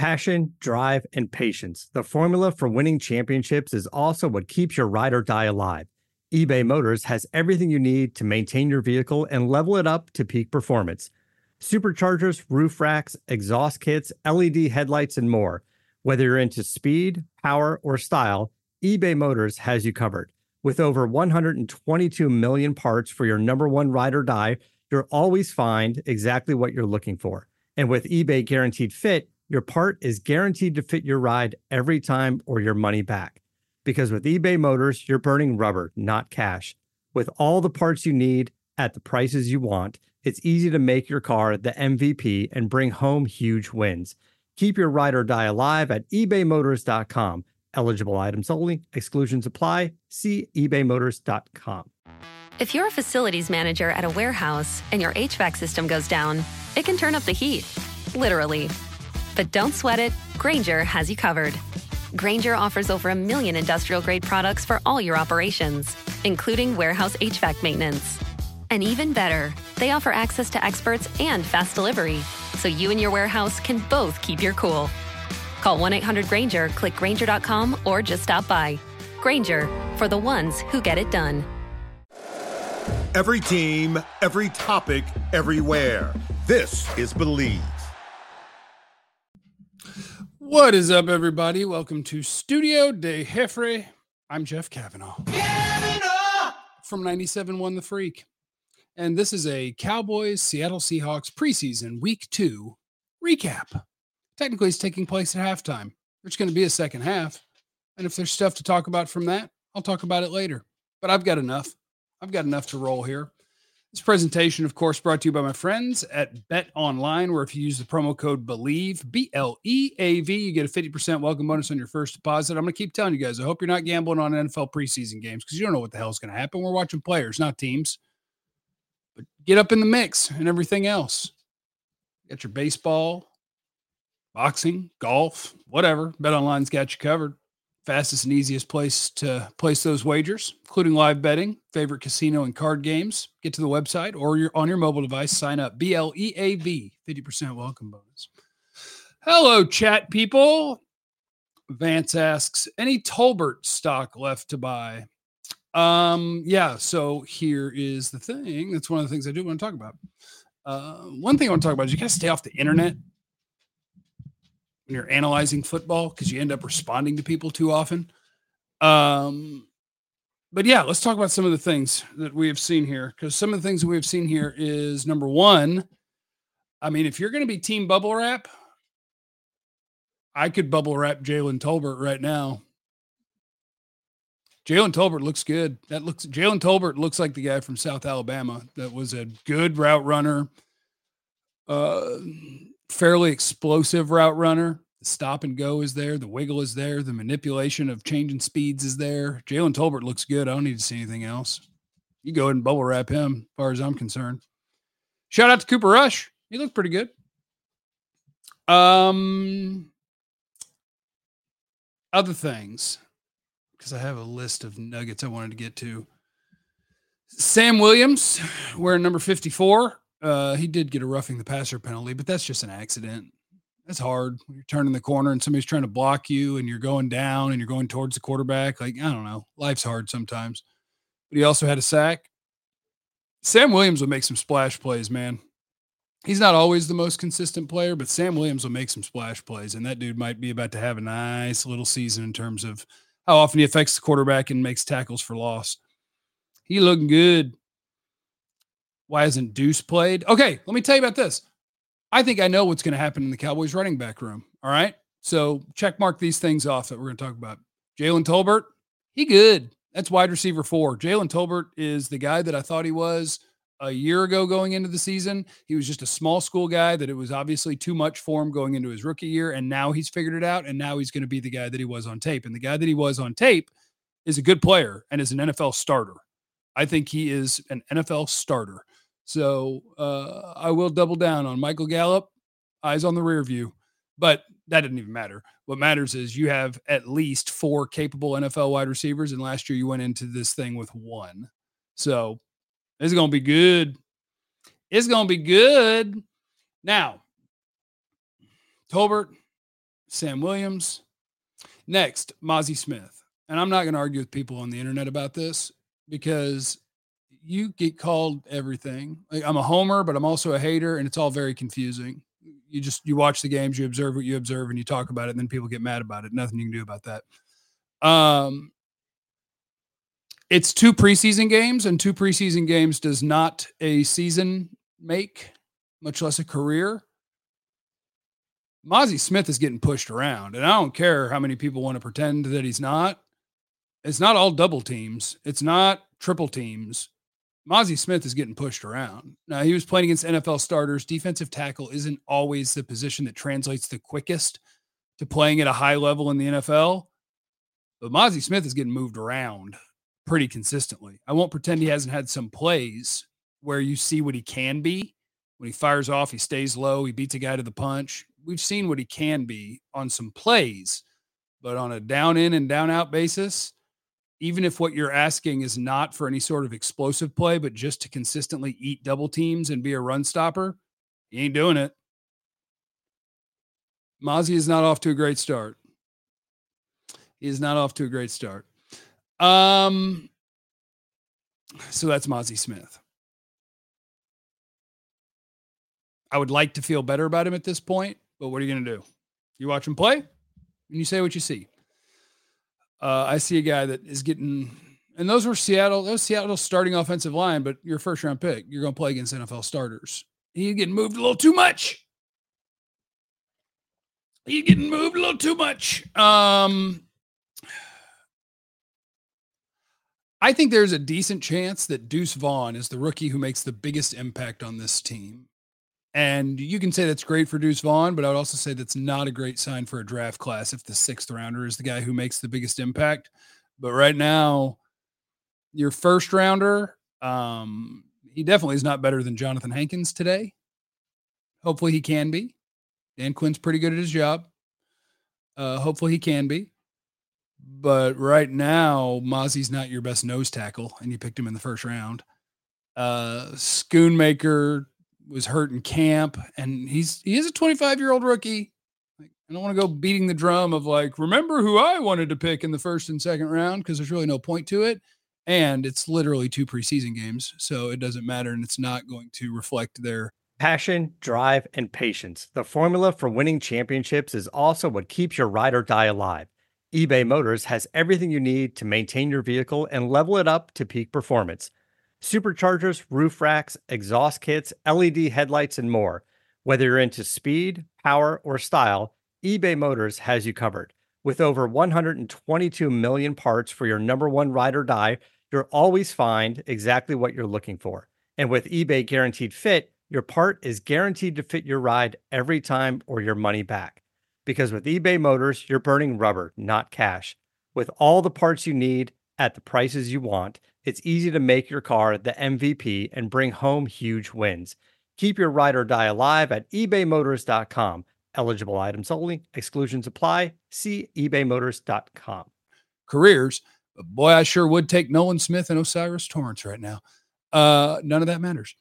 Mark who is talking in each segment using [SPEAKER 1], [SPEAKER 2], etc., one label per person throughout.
[SPEAKER 1] Passion, drive, and patience. The formula for winning championships is also what keeps your ride or die alive. eBay Motors has everything you need to maintain your vehicle and level it up to peak performance. Superchargers, roof racks, exhaust kits, LED headlights, and more. Whether you're into speed, power, or style, eBay Motors has you covered. With over 122 million parts for your number one ride or die, you'll always find exactly what you're looking for. And with eBay Guaranteed Fit, your part is guaranteed to fit your ride every time or your money back. Because with eBay Motors, you're burning rubber, not cash. With all the parts you need at the prices you want, it's easy to make your car the MVP and bring home huge wins. Keep your ride or die alive at ebaymotors.com. Eligible items only. Exclusions apply. See ebaymotors.com.
[SPEAKER 2] If you're a facilities manager at a warehouse and your HVAC system goes down, it can turn up the heat, literally. But don't sweat it. Grainger has you covered. Grainger offers over 1 million industrial-grade products for all your operations, including warehouse HVAC maintenance. And even better, they offer access to experts and fast delivery, so you and your warehouse can both keep your cool. Call 1-800-GRAINGER, click Grainger.com, or just stop by. Grainger, for the ones who get it done.
[SPEAKER 3] Every team, every topic, everywhere. This is Believe.
[SPEAKER 4] What is up, everybody? Welcome to Studio de Jeffrey. I'm Jeff Kavanaugh from 97.1 The Freak. And this is a Cowboys Seattle Seahawks preseason week 2 recap. Technically, it's taking place at halftime. There's going to be a second half. And if there's stuff to talk about from that, I'll talk about it later. But I've got enough. I've got enough to roll here. This presentation, of course, brought to you by my friends at Bet Online, where if you use the promo code BELIEVE, B-L-E-A-V, you get a 50% welcome bonus on your first deposit. I'm going to keep telling you guys, I hope you're not gambling on NFL preseason games because you don't know what the hell is going to happen. We're watching players, not teams. But get up in the mix and everything else. You got your baseball, boxing, golf, whatever. Bet Online's got you covered. Fastest and easiest place to place those wagers, including live betting, favorite casino and card games. Get to the website or you're on your mobile device, sign up. BLEAV, 50% welcome bonus. Hello, chat people. Vance asks, any Tolbert stock left to buy? Yeah, so here is the thing. That's one of the things I do want to talk about. One thing I want to talk about is you got to stay off the internet when you're analyzing football because you end up responding to people too often. But yeah, let's talk about some of the things that we have seen here, because some of the things that we have seen here is, number one, I mean, if you're going to be team bubble wrap, I could bubble wrap Jalen Tolbert right now. Jalen Tolbert looks good. Jalen Tolbert looks like the guy from South Alabama that was a good route runner, fairly explosive route runner. The stop and go is there. The wiggle is there. The manipulation of changing speeds is there. Jalen Tolbert looks good. I don't need to see anything else. You go ahead and bubble wrap him as far as I'm concerned. Shout out to Cooper Rush. He looked pretty good. Other things, because I have a list of nuggets I wanted to get to. Sam Williams, wearing number 54. He did get a roughing the passer penalty, but that's just an accident. That's hard when you're turning the corner and somebody's trying to block you and you're going down and you're going towards the quarterback. Like, I don't know. Life's hard sometimes. But he also had a sack. Sam Williams will make some splash plays, man. He's not always the most consistent player, but Sam Williams will make some splash plays, and that dude might be about to have a nice little season in terms of how often he affects the quarterback and makes tackles for loss. He looking good. Why hasn't Deuce played? Okay, let me tell you about this. I think I know what's going to happen in the Cowboys running back room. All right? So check mark these things off that we're going to talk about. Jalen Tolbert, he good. That's wide receiver 4. Jalen Tolbert is the guy that I thought he was a year ago going into the season. He was just a small school guy that it was obviously too much for him going into his rookie year, and now he's figured it out, and now he's going to be the guy that he was on tape. And the guy that he was on tape is a good player and is an NFL starter. I think he is an NFL starter. So I will double down on Michael Gallup, eyes on the rear view, but that didn't even matter. What matters is you have at least 4 capable NFL wide receivers, and last year you went into this thing with 1. So it's going to be good. It's going to be good. Now, Tolbert, Sam Williams. Next, Mazi Smith. And I'm not going to argue with people on the internet about this because you get called everything. Like, I'm a homer, but I'm also a hater, and it's all very confusing. You watch the games, you observe what you observe, and you talk about it, and then people get mad about it. Nothing you can do about that. It's 2 preseason games, and 2 preseason games does not a season make, much less a career. Mazi Smith is getting pushed around, and I don't care how many people want to pretend that he's not. It's not all double teams. It's not triple teams. Mazi Smith is getting pushed around. Now, he was playing against NFL starters. Defensive tackle isn't always the position that translates the quickest to playing at a high level in the NFL, but Mazi Smith is getting moved around pretty consistently. I won't pretend he hasn't had some plays where you see what he can be. When he fires off, he stays low, he beats a guy to the punch. We've seen what he can be on some plays, but on a down in and down out basis, even if what you're asking is not for any sort of explosive play, but just to consistently eat double teams and be a run stopper, he ain't doing it. Mazi is not off to a great start. He is not off to a great start. So that's Mazi Smith. I would like to feel better about him at this point, but what are you going to do? You watch him play and you say what you see. I see a guy that is getting, and those were Seattle starting offensive line, but your first round pick, you're going to play against NFL starters. He's getting moved a little too much. I think there's a decent chance that Deuce Vaughn is the rookie who makes the biggest impact on this team. And you can say that's great for Deuce Vaughn, but I would also say that's not a great sign for a draft class if the 6th rounder is the guy who makes the biggest impact. But right now, your first rounder, he definitely is not better than Jonathan Hankins today. Hopefully he can be. Dan Quinn's pretty good at his job. Hopefully he can be. But right now, Mazi's not your best nose tackle, and you picked him in the first round. Schoonmaker was hurt in camp, and he is a 25-year-old rookie. Like, I don't want to go beating the drum of like, remember who I wanted to pick in the first and second round, because there's really no point to it. And it's literally 2 preseason games, so it doesn't matter, and it's not going to reflect their
[SPEAKER 1] passion, drive, and patience. The formula for winning championships is also what keeps your ride or die alive. eBay Motors has everything you need to maintain your vehicle and level it up to peak performance. Superchargers, roof racks, exhaust kits, LED headlights, and more. Whether you're into speed, power, or style, eBay Motors has you covered. With over 122 million parts for your number one ride or die, you'll always find exactly what you're looking for. And with eBay Guaranteed Fit, your part is guaranteed to fit your ride every time or your money back. Because with eBay Motors, you're burning rubber, not cash. With all the parts you need at the prices you want, it's easy to make your car the MVP and bring home huge wins. Keep your ride or die alive at ebaymotors.com. Eligible items only. Exclusions apply. See ebaymotors.com.
[SPEAKER 4] careers. But boy, I sure would take Nolan Smith and Osiris Torrance right now. None of that matters.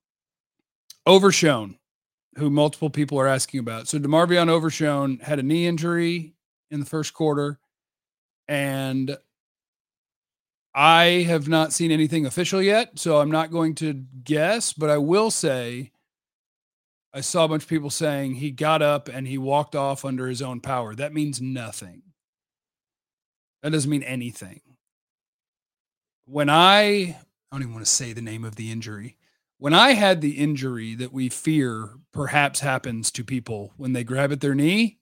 [SPEAKER 4] Overshown, who multiple people are asking about. So DeMarvion Overshown had a knee injury in the first quarter, and I have not seen anything official yet, so I'm not going to guess, but I will say I saw a bunch of people saying he got up and he walked off under his own power. That means nothing. That doesn't mean anything. When I don't even want to say the name of the injury. When I had the injury that we fear perhaps happens to people when they grab at their knee,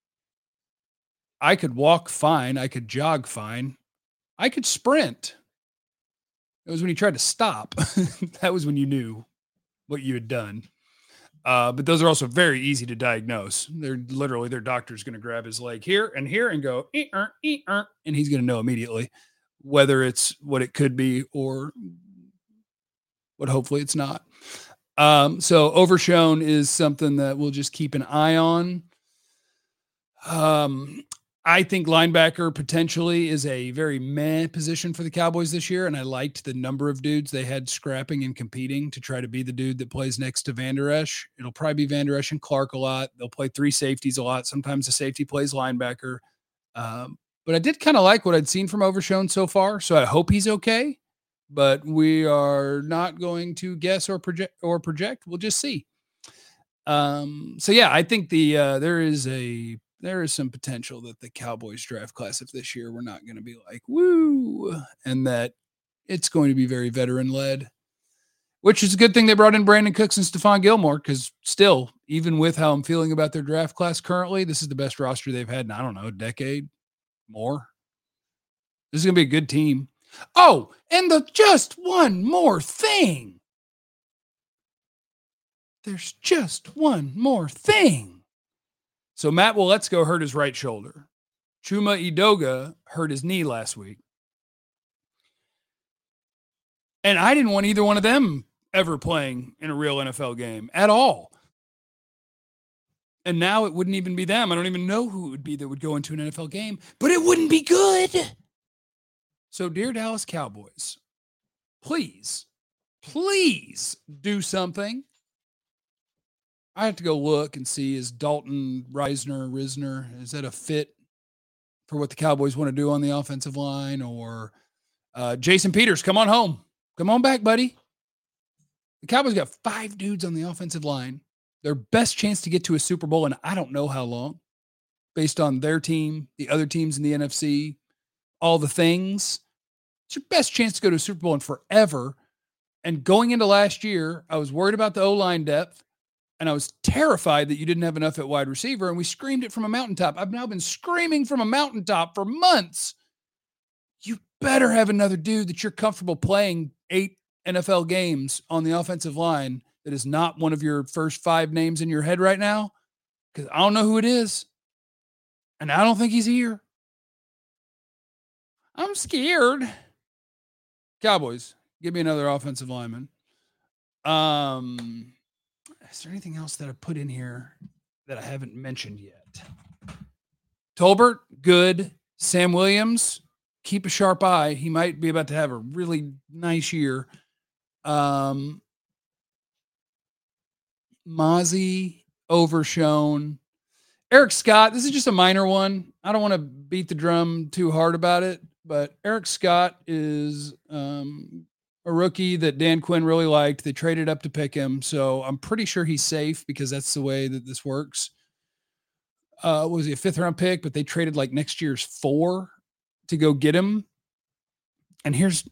[SPEAKER 4] I could walk fine. I could jog fine. I could sprint. It was when you tried to stop. That was when you knew what you had done. But those are also very easy to diagnose. They're literally, their doctor's going to grab his leg here and go, and he's going to know immediately whether it's what it could be or what hopefully it's not. So Overshown is something that we'll just keep an eye on. I think linebacker potentially is a very meh position for the Cowboys this year, and I liked the number of dudes they had scrapping and competing to try to be the dude that plays next to Van Der Esch. It'll probably be Van Der Esch and Clark a lot. They'll play three safeties a lot. Sometimes the safety plays linebacker. But I did kind of like what I'd seen from Overshown so far, so I hope he's okay. But we are not going to guess or project. We'll just see. So yeah, I think there is some potential that the Cowboys draft class of this year, we're not going to be like, woo, and that it's going to be very veteran led, which is a good thing they brought in Brandon Cooks and Stephon Gilmore. Cause still, even with how I'm feeling about their draft class currently, this is the best roster they've had in, I don't know, a decade more. This is going to be a good team. Oh, and just one more thing. There's just one more thing. So Matt Waletzko hurt his right shoulder. Chuma Edoga hurt his knee last week. And I didn't want either one of them ever playing in a real NFL game at all. And now it wouldn't even be them. I don't even know who it would be that would go into an NFL game, but it wouldn't be good. So dear Dallas Cowboys, please do something. I have to go look and see, is Dalton Risner, is that a fit for what the Cowboys want to do on the offensive line? Or Jason Peters, come on home. Come on back, buddy. The Cowboys got 5 dudes on the offensive line. Their best chance to get to a Super Bowl, and I don't know how long, based on their team, the other teams in the NFC, all the things. It's your best chance to go to a Super Bowl in forever. And going into last year, I was worried about the O-line depth. And I was terrified that you didn't have enough at wide receiver, and we screamed it from a mountaintop. I've now been screaming from a mountaintop for months. You better have another dude that you're comfortable playing 8 NFL games on the offensive line that is not one of your first 5 names in your head right now, because I don't know who it is, and I don't think he's here. I'm scared. Cowboys, give me another offensive lineman. Is there anything else that I put in here that I haven't mentioned yet? Tolbert, good. Sam Williams, keep a sharp eye. He might be about to have a really nice year. Mozzie, Overshown. Eric Scott, this is just a minor one. I don't want to beat the drum too hard about it, but Eric Scott is a rookie that Dan Quinn really liked. They traded up to pick him. So I'm pretty sure he's safe because that's the way that this works. Was he a 5th round pick, but they traded like next year's 4 to go get him. And here's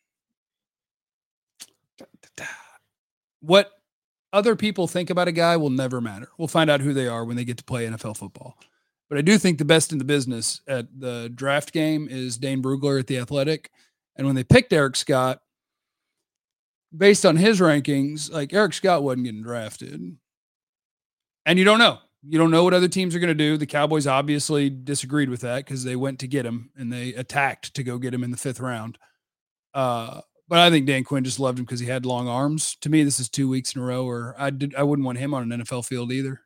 [SPEAKER 4] what other people think about a guy will never matter. We'll find out who they are when they get to play NFL football. But I do think the best in the business at the draft game is Dane Brugler at The Athletic. And when they picked Eric Scott, based on his rankings, like Eric Scott wasn't getting drafted. And you don't know. You don't know what other teams are going to do. The Cowboys obviously disagreed with that because they went to get him and they attacked to go get him in the 5th round. But I think Dan Quinn just loved him because he had long arms. To me, this is 2 weeks in a row where I wouldn't want him on an NFL field either.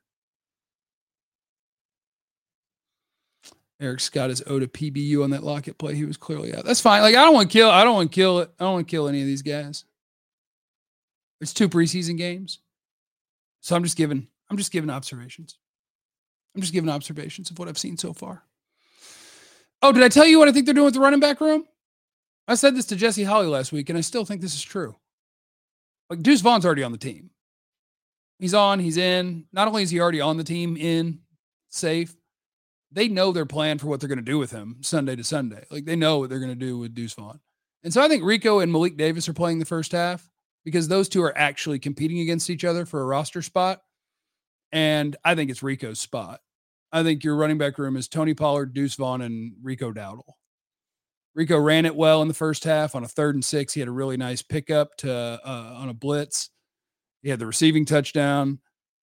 [SPEAKER 4] Eric Scott is owed a PBU on that Lockett play. He was clearly out. That's fine. Like I don't want to kill any of these guys. It's 2 preseason games. So I'm just giving observations. I'm just giving observations of what I've seen so far. Oh, did I tell you what I think they're doing with the running back room? I said this to Jesse Holley last week, and I still think this is true. Like Deuce Vaughn's already on the team. He's on, he's in. Not only is he already on the team, in, safe, they know their plan for what they're going to do with him Sunday to Sunday. Like they know what they're going to do with Deuce Vaughn. And so I think Rico and Malik Davis are playing the first half because those two are actually competing against each other for a roster spot. And I think it's Rico's spot. I think your running back room is Tony Pollard, Deuce Vaughn, and Rico Dowdle. Rico ran it well in the first half on a 3rd and 6. He had a really nice pickup on a blitz. He had the receiving touchdown.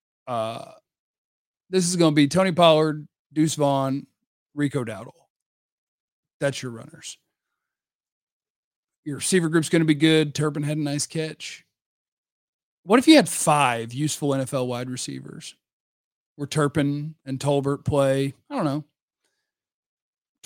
[SPEAKER 4] This is going to be Tony Pollard, Deuce Vaughn, Rico Dowdle. That's your runners. Your receiver group's going to be good. Turpin had a nice catch. What if you had 5 useful NFL wide receivers where Turpin and Tolbert play, I don't know,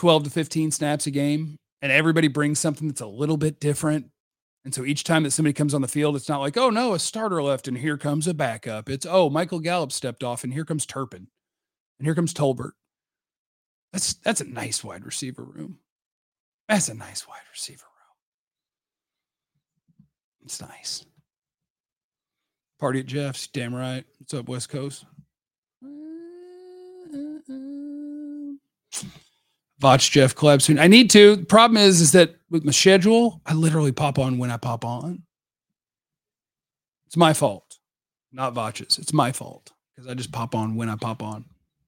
[SPEAKER 4] 12 to 15 snaps a game, and everybody brings something that's a little bit different. And so each time that somebody comes on the field, it's not like, oh no, a starter left and here comes a backup. It's, oh, Michael Gallup stepped off and here comes Turpin and here comes Tolbert. That's a nice wide receiver room. That's a nice wide receiver room. It's nice. Party at Jeff's, damn right. What's up, West Coast? Watch Jeff collab soon. I need to. The problem is that with my schedule, I literally pop on when I pop on. It's my fault, not Vach's. It's my fault because I just pop on when I pop on.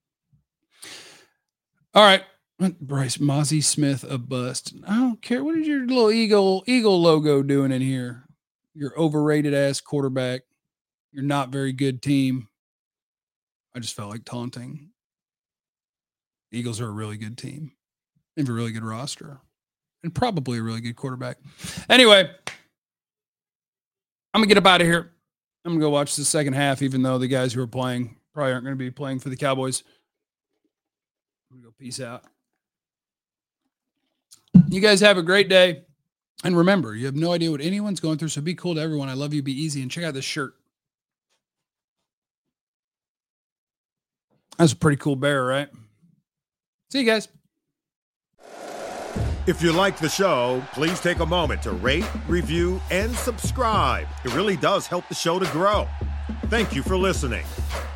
[SPEAKER 4] All right. Bryce Mozzie Smith a bust. I don't care. What is your little eagle logo doing in here? Your overrated ass quarterback. You're not very good team. I just felt like taunting. Eagles are a really good team. They have a really good roster and probably a really good quarterback. Anyway, I'm going to get up out of here. I'm going to go watch the second half, even though the guys who are playing probably aren't going to be playing for the Cowboys. I'm going to go peace out. You guys have a great day. And remember, you have no idea what anyone's going through, so be cool to everyone. I love you. Be easy. And check out this shirt. That's a pretty cool bear, right? See you guys.
[SPEAKER 3] If you like the show, please take a moment to rate, review, and subscribe. It really does help the show to grow. Thank you for listening.